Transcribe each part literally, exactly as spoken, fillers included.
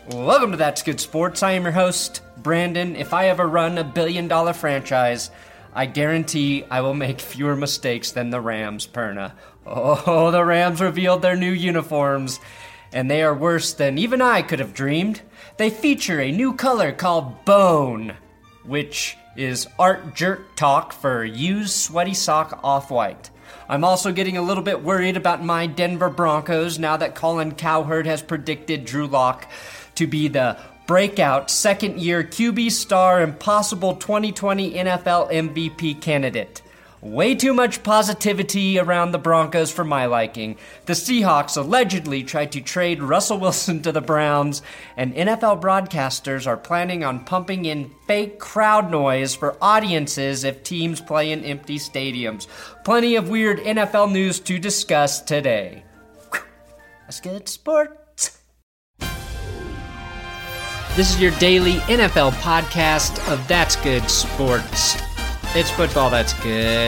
Welcome to That's Good Sports. I am your host, Brandon. If I ever run a billion dollar franchise, I guarantee I will make fewer mistakes than the Rams, Perna. Oh, the Rams revealed their new uniforms, and they are worse than even I could have dreamed. They feature a new color called Bone, which is art jerk talk for used sweaty sock off-white. I'm also getting a little bit worried about my Denver Broncos now that Colin Cowherd has predicted Drew Lock to be the breakout second-year Q B star and possible twenty twenty N F L M V P candidate. Way too much positivity around the Broncos for my liking. The Seahawks allegedly tried to trade Russell Wilson to the Browns, and N F L broadcasters are planning on pumping in fake crowd noise for audiences if teams play in empty stadiums. Plenty of weird N F L news to discuss today. That's good sports. This is your daily N F L podcast of That's Good Sports. It's football that's good.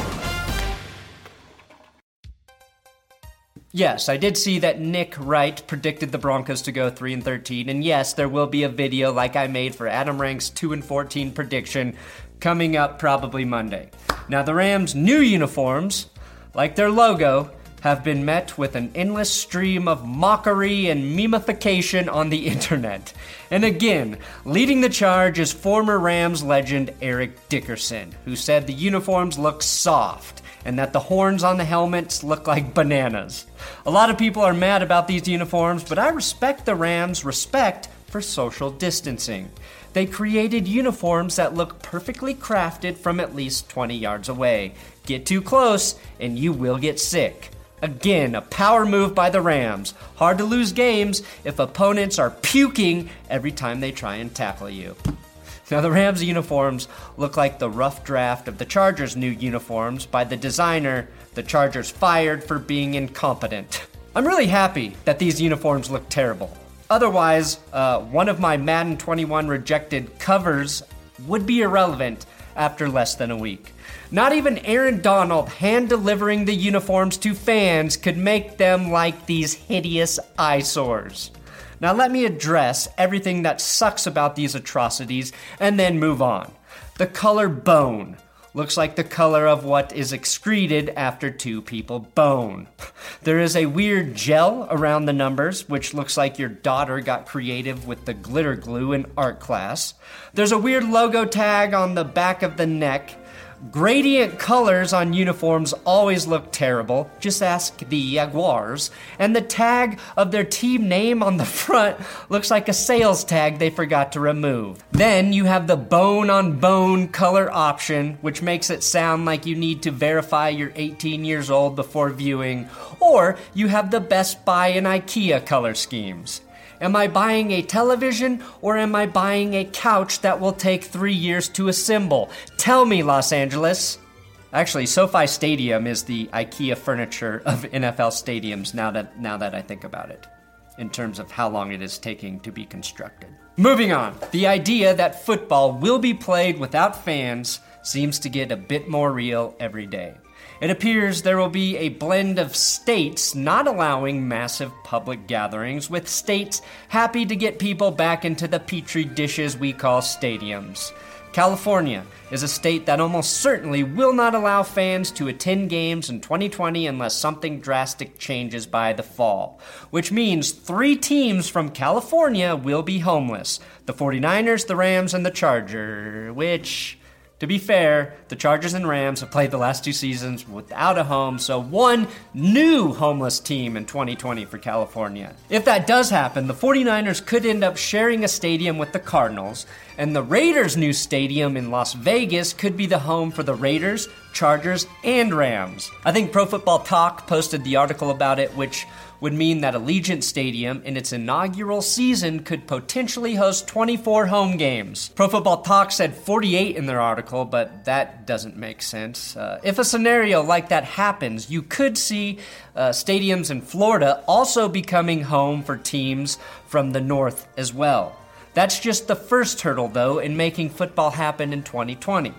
Yes, I did see that Nick Wright predicted the Broncos to go three and thirteen, and yes, there will be a video like I made for Adam Rank's two and fourteen prediction coming up probably Monday. Now, the Rams' new uniforms, like their logo, have been met with an endless stream of mockery and memification on the internet. And again, leading the charge is former Rams legend Eric Dickerson, who said the uniforms look soft and that the horns on the helmets look like bananas. A lot of people are mad about these uniforms, but I respect the Rams' respect for social distancing. They created uniforms that look perfectly crafted from at least twenty yards away. Get too close and you will get sick. Again, a power move by the Rams. Hard to lose games if opponents are puking every time they try and tackle you. Now, the Rams uniforms look like the rough draft of the Chargers' new uniforms by the designer the Chargers fired for being incompetent. I'm really happy that these uniforms look terrible. Otherwise, uh, one of my Madden twenty-one rejected covers would be irrelevant after less than a week. Not even Aaron Donald hand-delivering the uniforms to fans could make them like these hideous eyesores. Now let me address everything that sucks about these atrocities and then move on. The color bone looks like the color of what is excreted after two people bone. There is a weird gel around the numbers, which looks like your daughter got creative with the glitter glue in art class. There's a weird logo tag on the back of the neck. Gradient colors on uniforms always look terrible. Just ask the Jaguars. And the tag of their team name on the front looks like a sales tag they forgot to remove. Then you have the bone on bone color option, which makes it sound like you need to verify you're eighteen years old before viewing. Or you have the Best Buy and IKEA color schemes. Am I buying a television or am I buying a couch that will take three years to assemble? Tell me, Los Angeles. Actually, SoFi Stadium is the IKEA furniture of N F L stadiums now that now that I think about it, in terms of how long it is taking to be constructed. Moving on, the idea that football will be played without fans seems to get a bit more real every day. It appears there will be a blend of states not allowing massive public gatherings, with states happy to get people back into the petri dishes we call stadiums. California is a state that almost certainly will not allow fans to attend games in twenty twenty unless something drastic changes by the fall, which means three teams from California will be homeless: the forty-niners, the Rams, and the Chargers, which... To be fair, the Chargers and Rams have played the last two seasons without a home, so one new homeless team in twenty twenty for California. If that does happen, the forty-niners could end up sharing a stadium with the Cardinals, and the Raiders' new stadium in Las Vegas could be the home for the Raiders, Chargers, and Rams. I think Pro Football Talk posted the article about it, which would mean that Allegiant Stadium in its inaugural season could potentially host twenty-four home games. Pro Football Talk said forty-eight in their article, but that doesn't make sense. Uh, if a scenario like that happens, you could see uh, stadiums in Florida also becoming home for teams from the north as well. That's just the first hurdle, though, in making football happen in twenty twenty.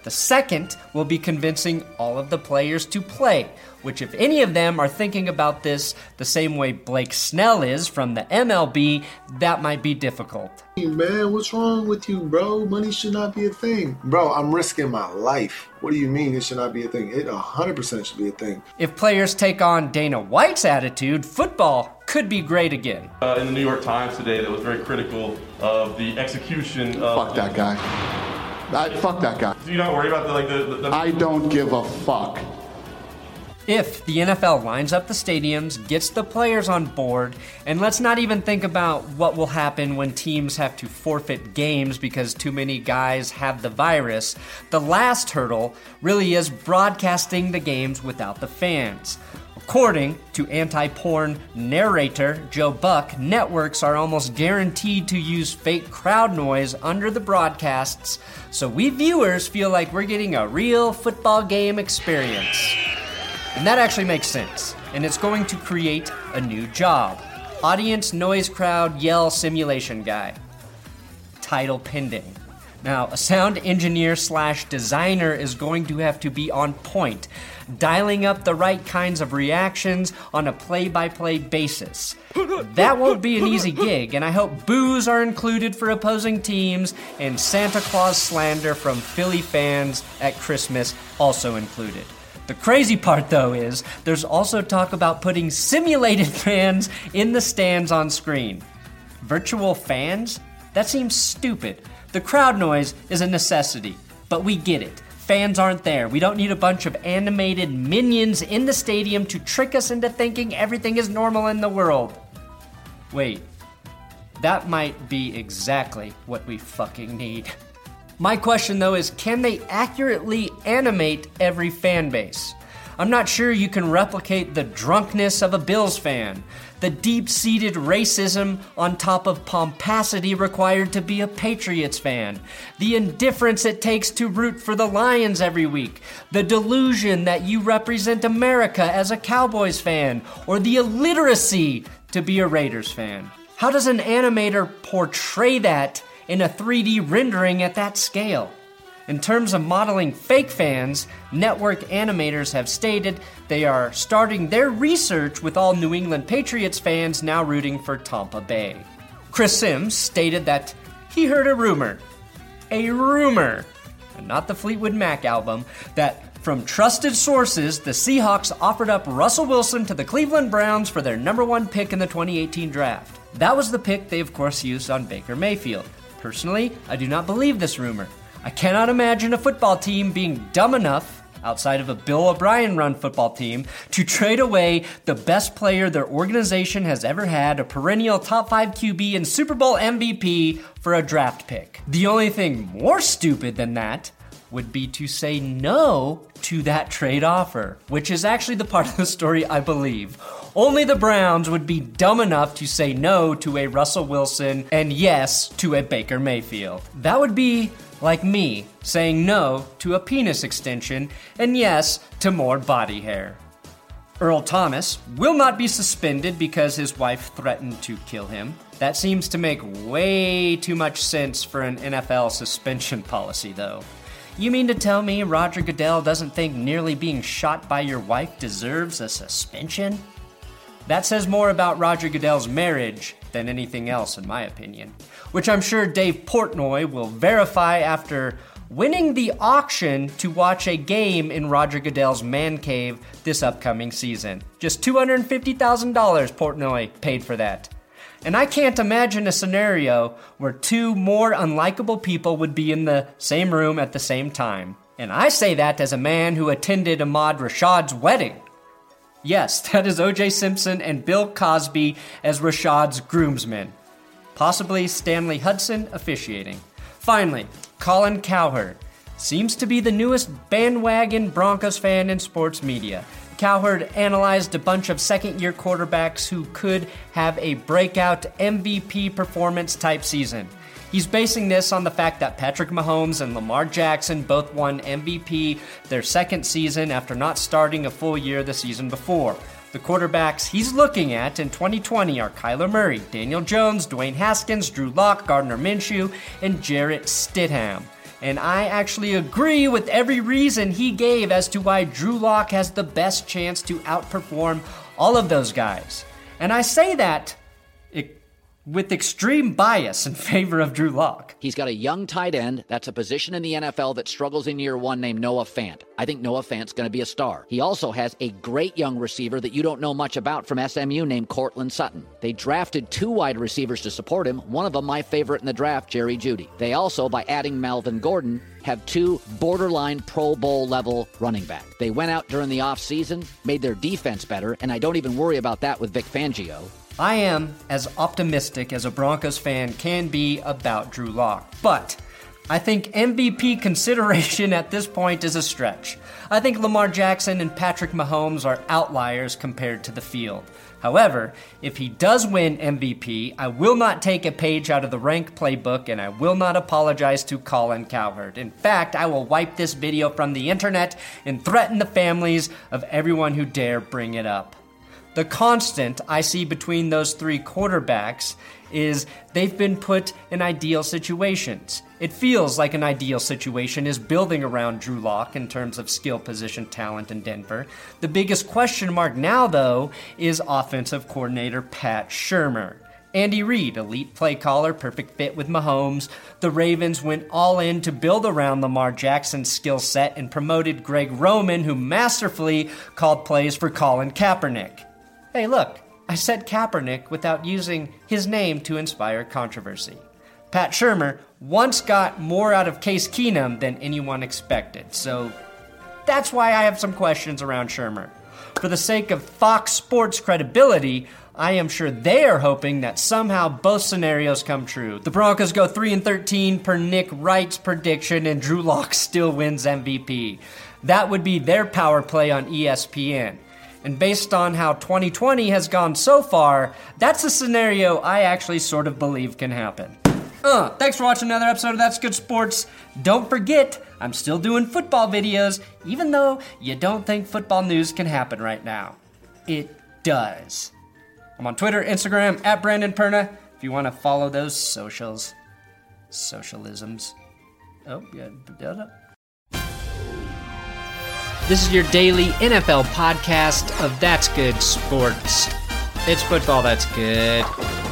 The second will be convincing all of the players to play, which if any of them are thinking about this the same way Blake Snell is from the M L B, that might be difficult. Hey man, what's wrong with you, bro? Money should not be a thing. Bro, I'm risking my life. What do you mean it should not be a thing? It one hundred percent should be a thing. If players take on Dana White's attitude, football could be great again. Uh, in the New York Times today that was very critical of the execution of... Fuck that guy. I, fuck that guy. So you don't worry about the, like, the, the, the... I don't give a fuck. If the N F L lines up the stadiums, gets the players on board, and let's not even think about what will happen when teams have to forfeit games because too many guys have the virus, the last hurdle really is broadcasting the games without the fans. According to anti-porn narrator Joe Buck, networks are almost guaranteed to use fake crowd noise under the broadcasts, so we viewers feel like we're getting a real football game experience. And that actually makes sense, and it's going to create a new job. Audience noise crowd yell simulation guy. Title pending. Now, a sound engineer slash designer is going to have to be on point, dialing up the right kinds of reactions on a play-by-play basis. That won't be an easy gig, and I hope boos are included for opposing teams and Santa Claus slander from Philly fans at Christmas also included. The crazy part, though, is there's also talk about putting simulated fans in the stands on screen. Virtual fans? That seems stupid. The crowd noise is a necessity, but we get it. Fans aren't there. We don't need a bunch of animated minions in the stadium to trick us into thinking everything is normal in the world. Wait, that might be exactly what we fucking need. My question, though, is can they accurately animate every fan base? I'm not sure you can replicate the drunkenness of a Bills fan, the deep-seated racism on top of pomposity required to be a Patriots fan, the indifference it takes to root for the Lions every week, the delusion that you represent America as a Cowboys fan, or the illiteracy to be a Raiders fan. How does an animator portray that in a three D rendering at that scale? In terms of modeling fake fans, network animators have stated they are starting their research with all New England Patriots fans now rooting for Tampa Bay. Chris Sims stated that he heard a rumor, a rumor, and not the Fleetwood Mac album, that from trusted sources, the Seahawks offered up Russell Wilson to the Cleveland Browns for their number one pick in the twenty eighteen draft. That was the pick they of course used on Baker Mayfield. Personally, I do not believe this rumor. I cannot imagine a football team being dumb enough, outside of a Bill O'Brien-run football team, to trade away the best player their organization has ever had, a perennial top five Q B and Super Bowl M V P, for a draft pick. The only thing more stupid than that would be to say no to that trade offer, which is actually the part of the story I believe. Only the Browns would be dumb enough to say no to a Russell Wilson and yes to a Baker Mayfield. That would be like me saying no to a penis extension and yes to more body hair. Earl Thomas will not be suspended because his wife threatened to kill him. That seems to make way too much sense for an N F L suspension policy, though. You mean to tell me Roger Goodell doesn't think nearly being shot by your wife deserves a suspension? That says more about Roger Goodell's marriage than anything else, in my opinion, which I'm sure Dave Portnoy will verify after winning the auction to watch a game in Roger Goodell's man cave this upcoming season. Just two hundred fifty thousand dollars Portnoy paid for that. And I can't imagine a scenario where two more unlikable people would be in the same room at the same time. And I say that as a man who attended Ahmad Rashad's wedding. Yes, that is O J Simpson and Bill Cosby as Rashad's groomsmen. Possibly Stanley Hudson officiating. Finally, Colin Cowherd seems to be the newest bandwagon Broncos fan in sports media. Cowherd analyzed a bunch of second-year quarterbacks who could have a breakout M V P performance type season. He's basing this on the fact that Patrick Mahomes and Lamar Jackson both won M V P their second season after not starting a full year the season before. The quarterbacks he's looking at in twenty twenty are Kyler Murray, Daniel Jones, Dwayne Haskins, Drew Lock, Gardner Minshew, and Jarrett Stidham. and I actually agree with every reason he gave as to why Drew Lock has the best chance to outperform all of those guys. And I say that with extreme bias in favor of Drew Lock. He's got a young tight end. That's a position in the N F L that struggles in year one named Noah Fant. I think Noah Fant's going to be a star. He also has a great young receiver that you don't know much about from S M U named Cortland Sutton. They drafted two wide receivers to support him. One of them, my favorite in the draft, Jerry Jeudy. They also, by adding Melvin Gordon, have two borderline Pro Bowl level running backs. They went out during the offseason, made their defense better, and I don't even worry about that with Vic Fangio. I am as optimistic as a Broncos fan can be about Drew Lock, but I think M V P consideration at this point is a stretch. I think Lamar Jackson and Patrick Mahomes are outliers compared to the field. However, if he does win M V P, I will not take a page out of the Rank playbook and I will not apologize to Colin Cowherd. In fact, I will wipe this video from the internet and threaten the families of everyone who dare bring it up. The constant I see between those three quarterbacks is they've been put in ideal situations. It feels like an ideal situation is building around Drew Lock in terms of skill position talent in Denver. The biggest question mark now, though, is offensive coordinator Pat Shurmur. Andy Reid, elite play caller, perfect fit with Mahomes. The Ravens went all in to build around Lamar Jackson's skill set and promoted Greg Roman, who masterfully called plays for Colin Kaepernick. Hey, look, I said Kaepernick without using his name to inspire controversy. Pat Shurmur once got more out of Case Keenum than anyone expected, so that's why I have some questions around Shurmur. For the sake of Fox Sports credibility, I am sure they are hoping that somehow both scenarios come true. The Broncos go three and thirteen per Nick Wright's prediction, and Drew Lock still wins M V P. That would be their power play on E S P N. And based on how twenty twenty has gone so far, that's a scenario I actually sort of believe can happen. Uh, thanks for watching another episode of That's Good Sports. Don't forget, I'm still doing football videos, even though you don't think football news can happen right now. It does. I'm on Twitter, Instagram, at Brandon Perna, if you want to follow those socials. Socialisms. Oh, yeah. This is your daily N F L podcast of That's Good Sports. It's football that's good.